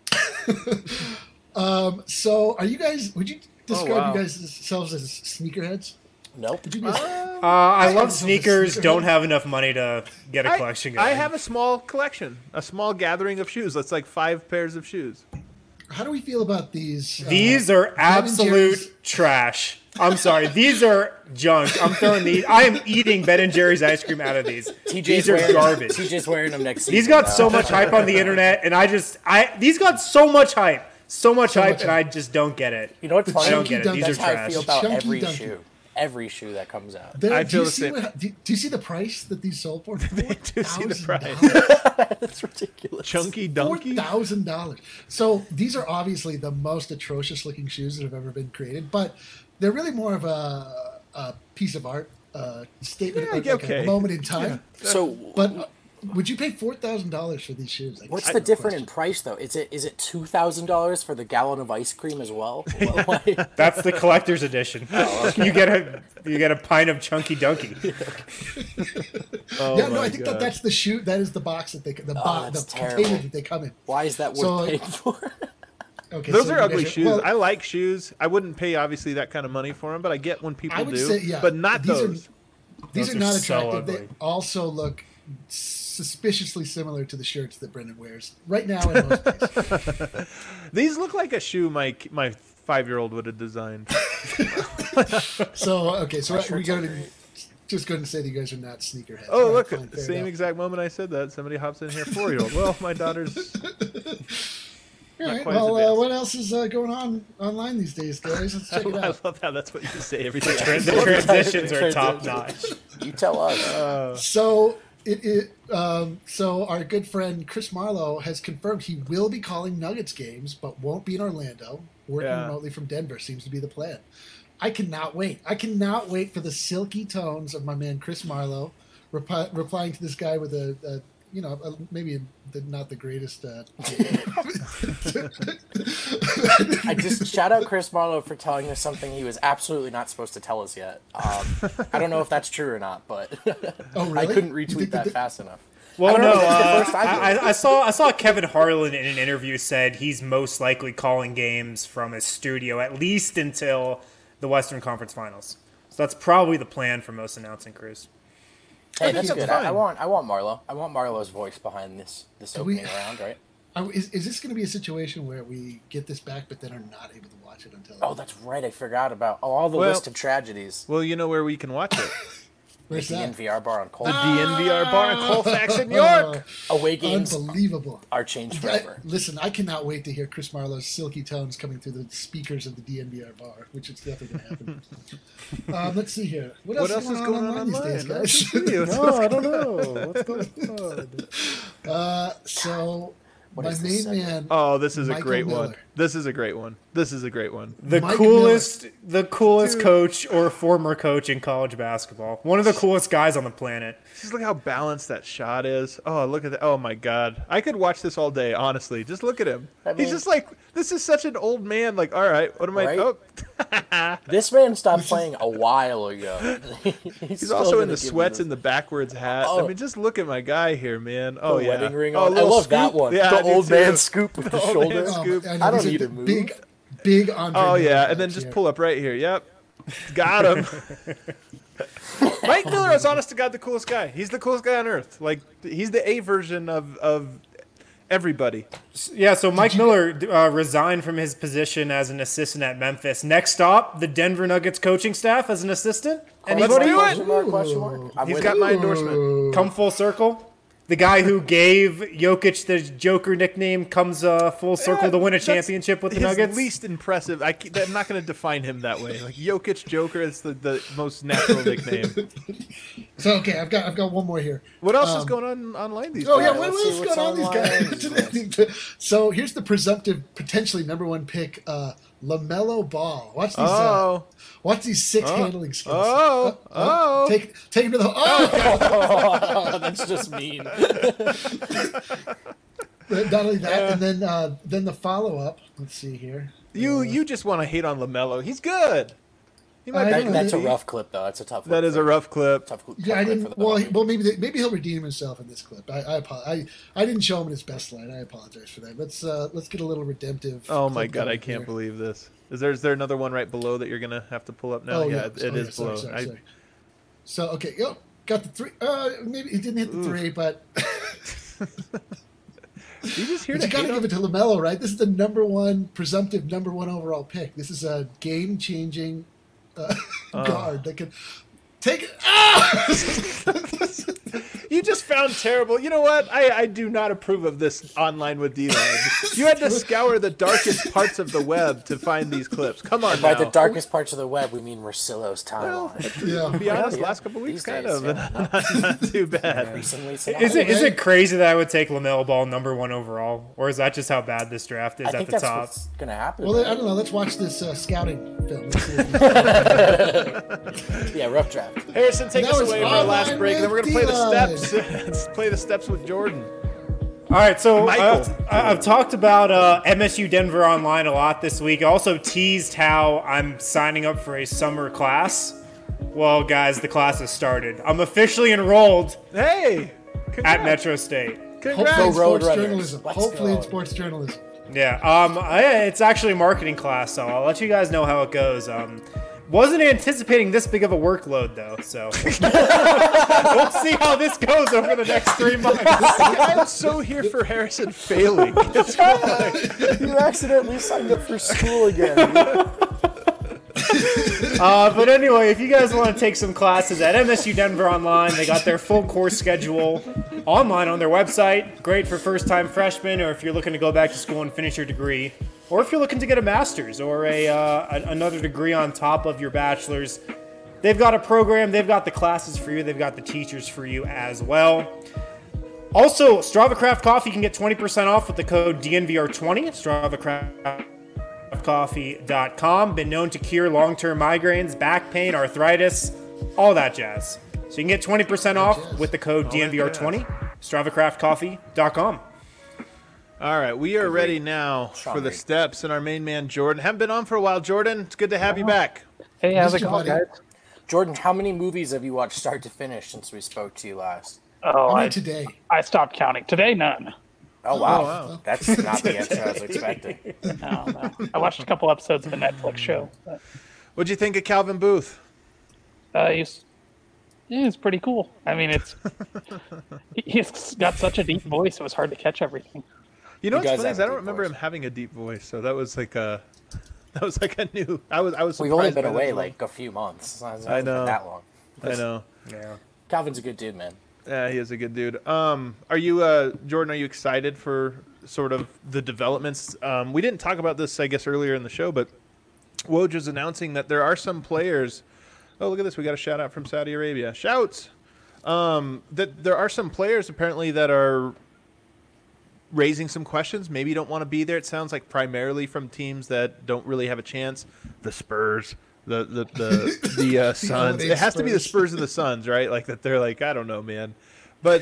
on? So, are you guys? Would you describe wow. you guys yourselves as sneakerheads? Nope. Would you be? I love sneakers, don't have enough money to get a collection going. I have a small collection, a small gathering of shoes. That's like 5 pairs of shoes. How do we feel about these? These are Ben and Jerry's- absolute trash. I'm sorry. These are junk. I'm throwing these. I am eating Ben and Jerry's ice cream out of these. These are garbage. TJ's wearing them next season. These got now. so much hype on the internet, and these got so much hype. So much hype, and I just don't get it. You know what's funny? I don't get it. These are That's how I trash. feel about Chunky every Dunky. shoe. Every shoe that comes out. There- I do feel you the see same. do you see the price that these sold for? do see the price. That's ridiculous. Chunky Donkey? $4,000. So these are obviously the most atrocious looking shoes that have ever been created, but they're really more of a piece of art, statement, Yeah, like okay. a moment in time. So, But would you pay $4,000 for these shoes? I guess what's is the the difference in question. price though? Is it $2,000 for the gallon of ice cream as well? Why- That's the collector's edition. You get a pint of Chunky Donkey. Oh Yeah, no, my I think God. that's the shoe. That is the box that that's the terrible. container that they come in. Why is that worth So- paying for? Okay, Those so are you ugly guys shoes. well, I like shoes. I wouldn't pay obviously that kind of money for them, but I get when people I would do. say, yeah, but not these are- those. These Those are are not so attractive. They ugly. also look suspiciously similar to the shirts that Brendan wears right now in most places. These look like a shoe my 5-year-old would have designed. So okay, so we shirts go are to great. just going to say that you guys are not sneakerheads. Oh, All look, fine, fair same enough. exact moment I said that, somebody hops in here, 4-year-old. Well, my daughter's All not right, quite as well, advanced. what else is going on online these days, guys? Let's check it I out. love how that's what you say every time. The transitions are top notch. You tell us. So so our good friend Chris Marlowe has confirmed he will be calling Nuggets games, but won't be in Orlando. Working Yeah. remotely from Denver seems to be the plan. I cannot wait. I cannot wait for the silky tones of my man Chris Marlowe replying to this guy with maybe not the greatest. I just shout out Chris Marlowe for telling us something he was absolutely not supposed to tell us yet. I don't know if that's true or not, but Oh, really? I couldn't You think retweet that fast enough. Well, I don't know, no, that's the first I've heard. I saw Kevin Harlan in an interview said he's most likely calling games from his studio at least until the Western Conference Finals. So that's probably the plan for most announcing crews. Hey, that's that's good. fine. I want Marlowe. I want Marlowe's voice behind this opening round, right? Is this going to be a situation where we get this back, but then are not able to watch it until? Oh, that's right. I forgot about all the Well- list of tragedies. Well, you know where we can watch it. Where's The that? NVR bar on The Colton. DNVR bar in Colfax in York. Away games Unbelievable. are changed I- forever. listen, I cannot wait to hear Chris Marlowe's silky tones coming through the speakers of the DNVR bar, which is definitely going to happen. Let's see here. What else is going on online these days, guys? I don't know. What's going on? So, What my is main this man, Oh, this is a Michael great Miller. one. This is a great one. The Mike coolest coach or former coach in college basketball. One of the coolest guys on the planet. Just look how balanced that shot is. Oh, look at that. Oh, my God. I could watch this all day, honestly. Just look at him. He's just like, this is such an old man. Like, all right, what am I? Right? Oh. This man stopped playing a while ago. He's also in the sweats and the backwards hat. Oh. I mean, just look at my guy here, man. Oh, yeah. Wedding ring Oh, on. I little love that scoop. one. Yeah, the I do old too. man scoop with the Old shoulder. man scoop. I don't need to move. Big Andre. Oh, yeah, Miller and then vibes just here. pull up right here. Yep. Got him. Mike Miller is, honest to God, the coolest guy. He's the coolest guy on earth. Like, he's the A version of everybody. Yeah, so Mike Miller resigned from his position as an assistant at Memphis. Next stop, the Denver Nuggets coaching staff as an assistant. Let's do it. Question mark. I'm He's with got you. my endorsement. Come full circle. The guy who gave Jokic the Joker nickname comes full circle to win a That's championship with the his Nuggets. least impressive. I'm not going to define him that way. Like Jokic Joker is the most natural nickname. So okay, I've got one more here. What else is going on online these Oh days? yeah, let's what see is what's going on these online. guys? So here's the presumptive, potentially #1 pick, LaMelo Ball. Watch these six handling skills. Take him to the. Oh, that's just mean. Not only that, and then the follow up. Let's see here. You just want to hate on LaMelo. He's good. He might I be know. That's a rough clip, though. That's a tough. That is a rough clip. Tough clip Yeah, I for didn't. the Well, Nuggets. maybe he'll redeem himself in this clip. I apologize. I didn't show him in his best light. I apologize for that. Let's get a little redemptive. Oh my clip God, I going can't here. believe this. Is there another one right below that you're gonna have to pull up now? Oh yeah, yeah, it is below. Sorry. So okay, got the three. Maybe he didn't hit the three, but You just here but to you got to hate give it to LaMelo, right? This is the presumptive #1 overall pick. This is a game-changing guard that can take it. You just found terrible. You know what? I do not approve of this online with D-Line. You had to scour the darkest parts of the web to find these clips. Come on By now. the darkest parts of the web, we mean Rosillo's timeline. Yeah. To be honest, Yeah. last couple weeks, These kind days, of. yeah. Not too bad. Recently, Is it crazy that I would take LaMelo Ball #1 overall, or is that just how bad this draft is I at think the that's top? what's gonna happen. Well, I right? don't know. Let's watch this scouting film. Let's see what Yeah, rough draft. Harrison, take That us was away for our last Online break, and then we're going to play the with steps. Let's play the steps with Jordan. All right, so Michael. I've talked about MSU Denver Online a lot this week. I also teased how I'm signing up for a summer class. Well, guys, the class has started. I'm officially enrolled Hey! at Congrats. Metro State. Congrats. Hopefully in Go Road sports Runners. journalism. Let's Hopefully in go. sports journalism. Yeah, it's actually a marketing class, so I'll let you guys know how it goes. Wasn't anticipating this big of a workload, though, so we'll see how this goes over the next 3 months. I'm so here for Harrison failing. That's why. You accidentally signed up for school again. But anyway, if you guys want to take some classes at MSU Denver Online, they got their full course schedule online on their website. Great for first-time freshmen, or if you're looking to go back to school and finish your degree, or if you're looking to get a master's or another degree on top of your bachelor's. They've got a program. They've got the classes for you. They've got the teachers for you as well. Also, Strava Craft Coffee can get 20% off with the code DNVR20. Strava Craft coffee.com. Been known to cure long-term migraines, back pain, arthritis, all that jazz. So you can get 20% off with the code DNVR20. StravaCraftCoffee.com. All right, we are ready now for the steps, and our main man, Jordan. Haven't been on for a while, Jordan. It's good to have you back. Hey, how's it Mr. going, Buddy. guys? Jordan, how many movies have you watched start to finish since we spoke to you last? Oh, I mean, today. I stopped counting. Today, none. Oh, wow. wow. That's not the answer I was expecting. No. I watched a couple episodes of a Netflix show. But, What'd you think of Calvin Booth? he's pretty cool. I mean, he's got such a deep voice. It was hard to catch everything. You know You what's guys funny have is a I don't deep remember voice. him having a deep voice, so that was like a new. I was surprised. We've only been by that away as well. like a few months. It's not I know. been that long. I know. Yeah. Calvin's a good dude, man. Yeah, he is a good dude. Are you, Jordan? Are you excited for sort of the developments? We didn't talk about this, I guess, earlier in the show, but Woj was announcing that there are some players. Oh, look at this! We got a shout out from Saudi Arabia. Shouts! That there are some players apparently that are raising some questions. Maybe you don't want to be there. It sounds like primarily from teams that don't really have a chance. The Spurs, the Suns. It has to be the Spurs and the Suns, right? Like that. They're like, I don't know, man. But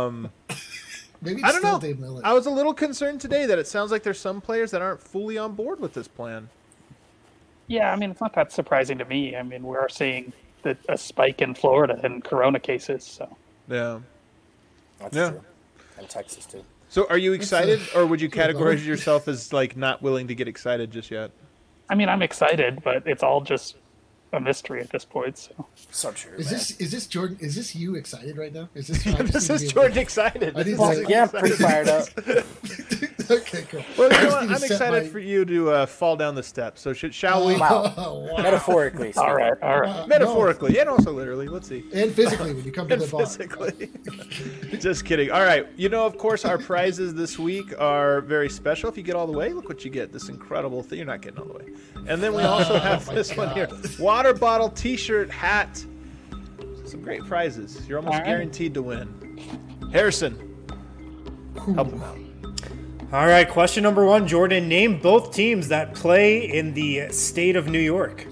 Maybe I don't know. Dave Miller. I was a little concerned today that it sounds like there's some players that aren't fully on board with this plan. Yeah, I mean, it's not that surprising to me. I mean, we are seeing a spike in Florida in corona cases. So Yeah. That's Yeah. true. And Texas, too. So are you excited, or would you categorize yourself as like not willing to get excited just yet? I mean, I'm excited, but it's all just a mystery at this point. So So true, Is man. this Jordan? Is this you excited right now? Is this? This is Jordan excited. I need This to- is Yeah, I'm pretty fired up. Okay, cool. Well, you I know just what? need to I'm set excited my- for you to fall down the steps. So shall we? Wow. Oh, wow. Metaphorically. all right, all right. Metaphorically and also literally. Let's see. And physically when you come to And the bar. physically. Just kidding. All right. You know, of course, our prizes this week are very special. If you get all the way, look what you get. This incredible thing. You're not getting all the way. And then we also have my this one God. here. Water bottle, T-shirt, hat. Some great prizes. You're almost All right. guaranteed to win. Harrison, help him out. All right, question number 1, Jordan. Name both teams that play in the state of New York.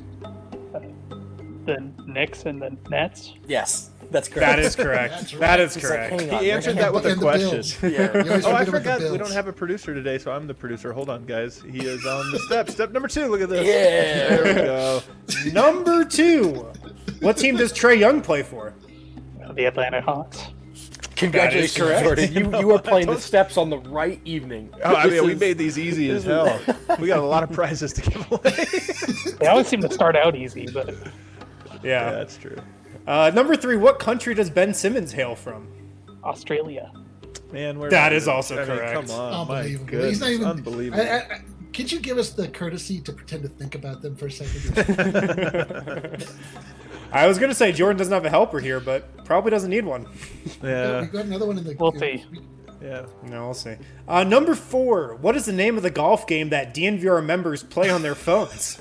The Knicks and the Nets. Yes, that's correct. That is correct. That's right. That is He's like, correct. hang on, He answered that with a And the question. Bills. Yeah. You always Oh, I forget about the forgot we Bills. don't have a producer today, so I'm the producer. Hold on, guys. He is on the step. Step number 2. Look at this. Yeah. There we go. Number 2. What team does Trey Young play for? The Atlanta Hawks. Congratulations, correct. Jordan. You are playing the steps on the right evening. Oh, I This mean, we is- made these easy as hell. We got a lot of prizes to give away. They always seem to start out easy, but Yeah, Yeah. that's true. Number 3. What country does Ben Simmons hail from? Australia. Man, where That are is we? also I mean, correct. Come on, my Unbelievable. goodness, He's not even unbelievable. Could you give us the courtesy to pretend to think about them for a second? I was going to say Jordan doesn't have a helper here, but probably doesn't need one. Yeah, We got another one in the. We'll see. yeah. No, we'll see. Number 4. What is the name of the golf game that DNVR members play on their phones?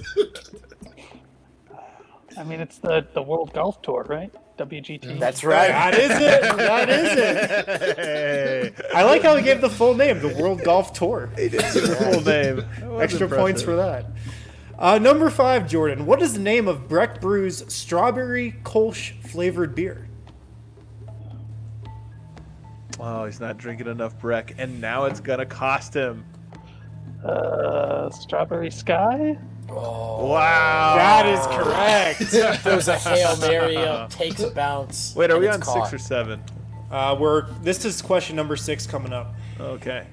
I mean, it's the World Golf Tour, right? WGT. That's right. That is it. That is it. Hey, I like how he gave the full name, the World Golf Tour. he did say the full name. That was Extra points for impressive. that. Number 5, Jordan. What is the name of Breck Brew's strawberry Kolsch flavored beer? Oh, he's not drinking enough Breck, and now it's gonna cost him. Strawberry Sky. Wow. That is correct. Throws a Hail Mary up, takes a bounce. Wait, are and we it's on caught. 6 or 7? This is question number 6 coming up. Okay.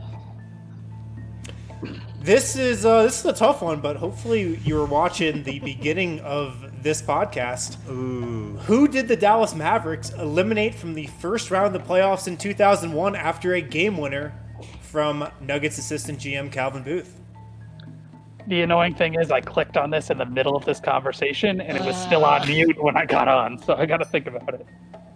This is a tough one, but hopefully you were watching the beginning of this podcast. Ooh. Who did the Dallas Mavericks eliminate from the first round of the playoffs in 2001 after a game winner from Nuggets assistant GM Calvin Booth? The annoying thing is I clicked on this in the middle of this conversation, and it was still on mute when I got on, so I got to think about it.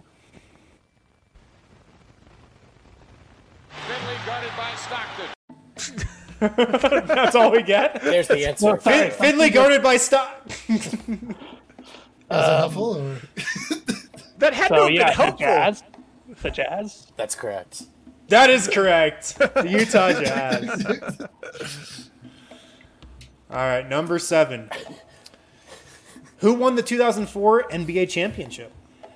Finley guarded by Stockton. That's all we get. There's the answer. Finley guarded by Stock. Is it helpful or? That had to So have been yeah, the helpful. Jazz. The Jazz. That's correct. That is correct. The Utah Jazz. All right, number 7. Who won the 2004 NBA championship?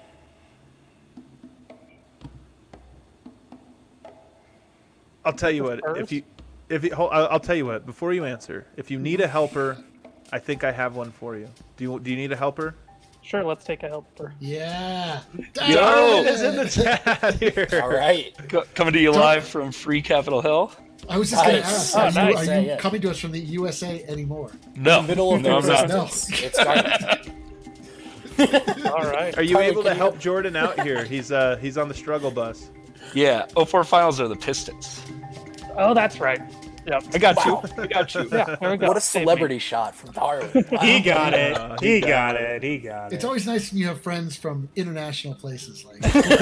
I'll tell you what. I'll tell you what. Before you answer, if you need a helper, I think I have one for you. Do you need a helper? Sure, let's take a helper. Yeah. Darren is in the chat here. All right. Coming to you live from Free Capitol Hill. I was just going to Nice. ask, are Oh, you, nice. are you Yeah. coming to us from the USA anymore? No, Middle of the no, I'm not. resistance. It's garbage. All right. Are you Tyler, able to can you- help Jordan out here? He's on the struggle bus. Yeah, 04 finals are the Pistons. Oh, that's right. Yep. I got Wow. you. I got you. Yeah, there we go. What a Save me. celebrity shot from Darwin. Wow. He got it. He got it. He got It's it. always nice when you have friends from international places like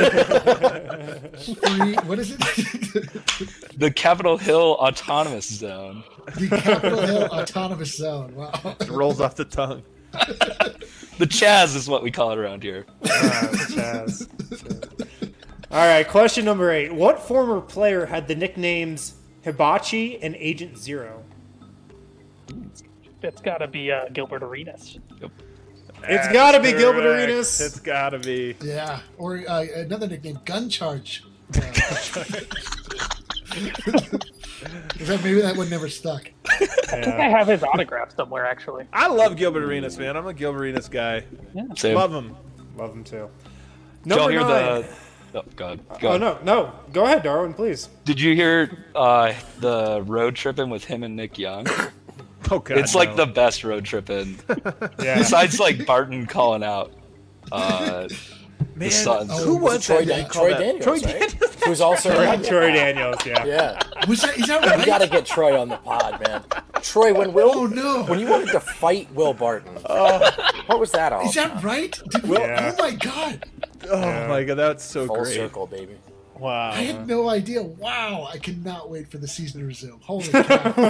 free, what is it? The Capitol Hill Autonomous Zone. The Capitol Hill Autonomous Zone. Wow. It rolls off the tongue. The Chaz is what we call it around here. Chaz. All right, question number 8. What former player had the nicknames Hibachi and Agent Zero? It's got to be Gilbert Arenas. It's got to be Gilbert Correct. Arenas. It's got to be. Yeah, or another nickname, Gun Charge. Maybe that one never stuck. I think I have his autograph somewhere, actually. I love Gilbert Arenas, man. I'm a Gilbert Arenas guy. Same. Love him. Love him too. Did y'all Number hear 9. the? Oh, God. Oh, no. Go ahead, Darwin, please. Did you hear the road tripping with him and Nick Young? Oh, God. It's like the best road tripping. Yeah. Besides, like, Barton calling out Man, the Suns. who was Troy, that? Troy That- Daniels, Troy right? Daniels. Who's also Troy Daniels, yeah. Yeah, Is that right? we got to get Troy on the pod, man. Troy, when Will, Oh, no. when you wanted to fight Will Barton, what was that all? Is that right? Yeah. Oh my god! Oh, my God. That's so Full great. circle, baby. Wow. I had no idea. Wow! I cannot wait for the season to resume. Holy cow!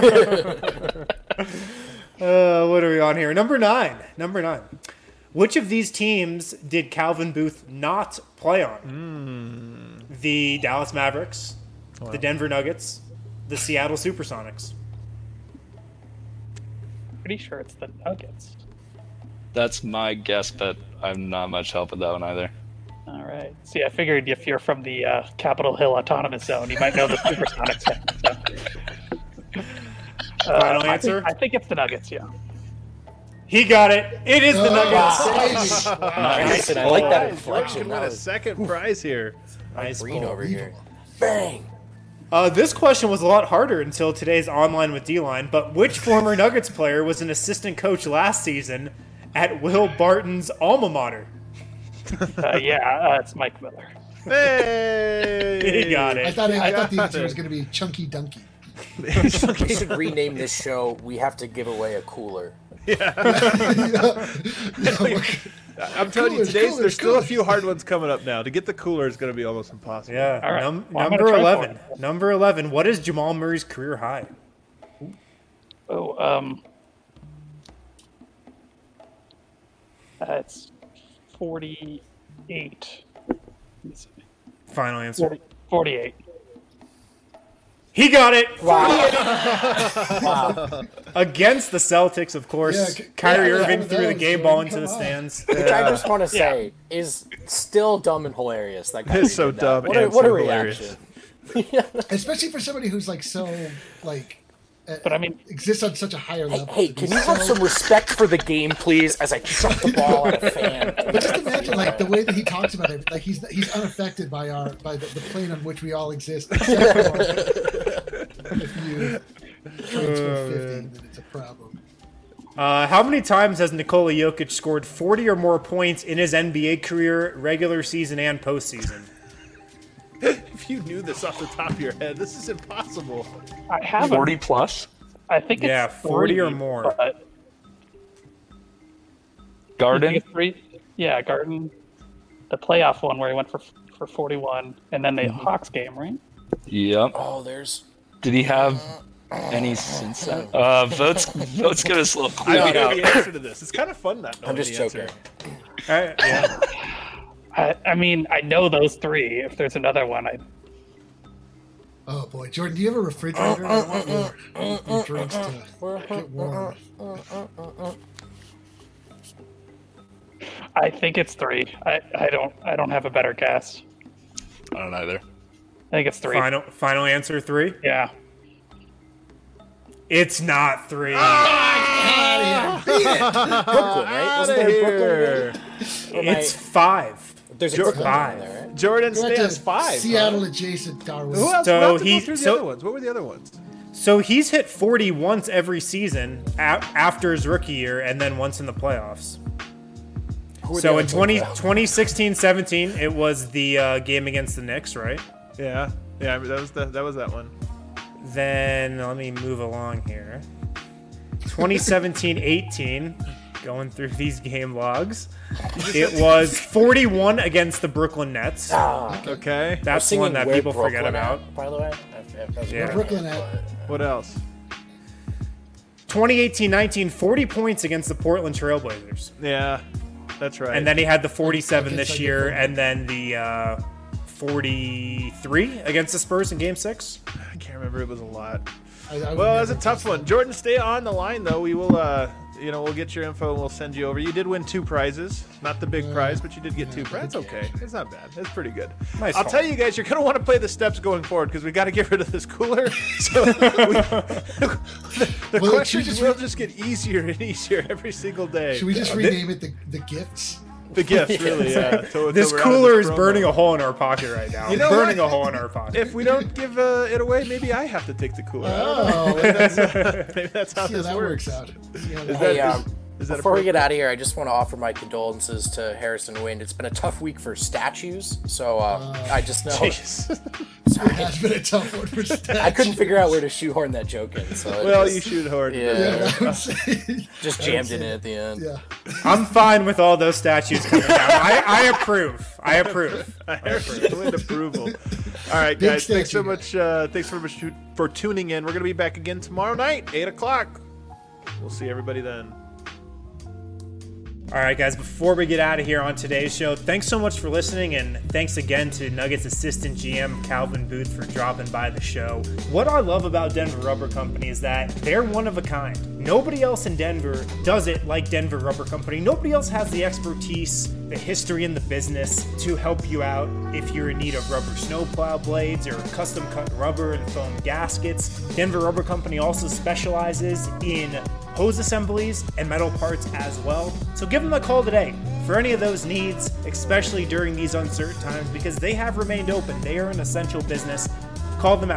What are we on here? Number 9. Which of these teams did Calvin Booth not play on? The Dallas Mavericks, the Denver Nuggets, the Seattle Supersonics. Pretty sure it's the Nuggets. That's my guess, but I'm not much help with that one either. All right. See, I figured if you're from the Capitol Hill Autonomous Zone, you might know the Supersonics. Final answer? I think it's the Nuggets, yeah. He got it. It is the Nuggets. Nice, and I like that Could inflection. win That a was second prize here. Nice green pull. over here. Bang! This question was a lot harder until today's Online with D-Line, but which former Nuggets player was an assistant coach last season at Will Barton's alma mater? It's Mike Miller. Hey! He got I it. thought the answer was going to be Chunky Dunky. We should rename this show. We have to give away a cooler. I'm telling you, Coolers, there's still a coolers. few hard ones coming up now. To get the cooler is going to be almost impossible. Yeah. All right. Well, I'm Number gonna try 11. for it. Number 11. What is Jamal Murray's career high? It's 48. Let me see. Final answer. 48. He got it. Wow. Against the Celtics, of course. Yeah, Kyrie yeah, Irving one of threw the those, game man. ball into Come the on. stands. Which I just want to say is still dumb and hilarious. That guy It's so did that. dumb What and a so reaction. Especially for somebody who's like so like. But I mean, exists on such a higher level. Hey, can you have some respect for the game, please? As I chuck the ball at a fan. But just imagine, like the way that he talks about it, like he's unaffected by the plane on which we all exist. Except for if you transfer 50, then it's a problem. How many times has Nikola Jokic scored 40 or more points in his NBA career, regular season and postseason? If you knew this off the top of your head, this is impossible. I have 40 plus? I think it's Yeah, 40 or 3, more. but- Garden? I think it's 3. Yeah, Garden. The playoff one where he went for 41, and then the Hawks game, right? Yep. Oh, there's. Did he have any since then? Votes give us a little clue. I don't know out. the answer to this. It's kind of fun not knowing I'm just the joking. answer. Yeah. I mean, I know those 3. If there's another one, Oh boy, Jordan, do you have a refrigerator? I want your drinks to get warm. I think it's 3. I don't have a better guess. I don't either. I think it's 3. Final answer 3? Yeah. It's not 3. Brooklyn, right? Wasn't there a Brooklyn? Or It's 5. There's a Brooklyn five. in there, right? Jordan Go ahead stands to 5. Seattle adjacent Darwin. Who else? So We'll have to he- go through the so- other ones. What were the other ones? So he's hit 40 once every season after his rookie year and then once in the playoffs. Who are So the in other 2016-17, it was the game against the Knicks, right? Yeah, I mean, that was that one. Then let me move along here. 2017-18, going through these game logs. It was 41 against the Brooklyn Nets. Okay. That's Singing one that Where people forget Brooklyn about. At, by the way. Yeah. Brooklyn at. What else? 2018-19, 40 points against the Portland Trailblazers. Yeah, that's right. And then he had the 47 I guess this I year, get and then the 43 against the Spurs in Game 6. I can't remember. It was a lot. I Well, that's a tough one. Jordan, stay on the line, though. We will, we'll get your info and we'll send you over. You did win 2 prizes. Not the big prize, but you did get 2 prizes. That's okay. It's not bad. It's pretty good. Nice I'll haul. tell you guys, you're going to want to play the steps going forward because we got to get rid of this cooler. So the Well, questions will just get easier and easier every single day. Should we just rename it the gifts? The gifts, really, yeah. This cooler is burning a hole in our pocket right now. You know burning what? a hole in our pocket. If we don't give it away, maybe I have to take the cooler. Oh, Maybe that's how yeah, this that works. works out. Yeah, Hey, Is that before we appropriate? get out of here, I just want to offer my condolences to Harrison Wind. It's been a tough week for statues, so I just know it has been a tough one for statues. I couldn't figure out where to shoehorn that joke in. So it Well, just- you shoot hard. Yeah, I would say, just jammed it in at the end. yeah. I'm fine with all those statues coming down. I approve. I approve. Harrison Wind approval. All right, Big guys. Thanks so statue much. Thanks so much for tuning in. We're gonna be back again tomorrow night, 8:00. We'll see everybody then. All right, guys, before we get out of here on today's show, thanks so much for listening, and thanks again to Nuggets assistant GM Calvin Booth for dropping by the show. What I love about Denver Rubber Company is that they're one of a kind. Nobody else in Denver does it like Denver Rubber Company. Nobody else has the expertise, the history in the business to help you out if you're in need of rubber snowplow blades or custom cut rubber and foam gaskets. Denver Rubber Company also specializes in hose assemblies and metal parts as well. So give them a call today for any of those needs, especially during these uncertain times, because they have remained open. They are an essential business. Call them at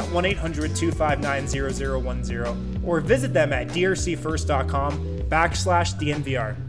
1-800-259-0010 or visit them at drcfirst.com/DNVR.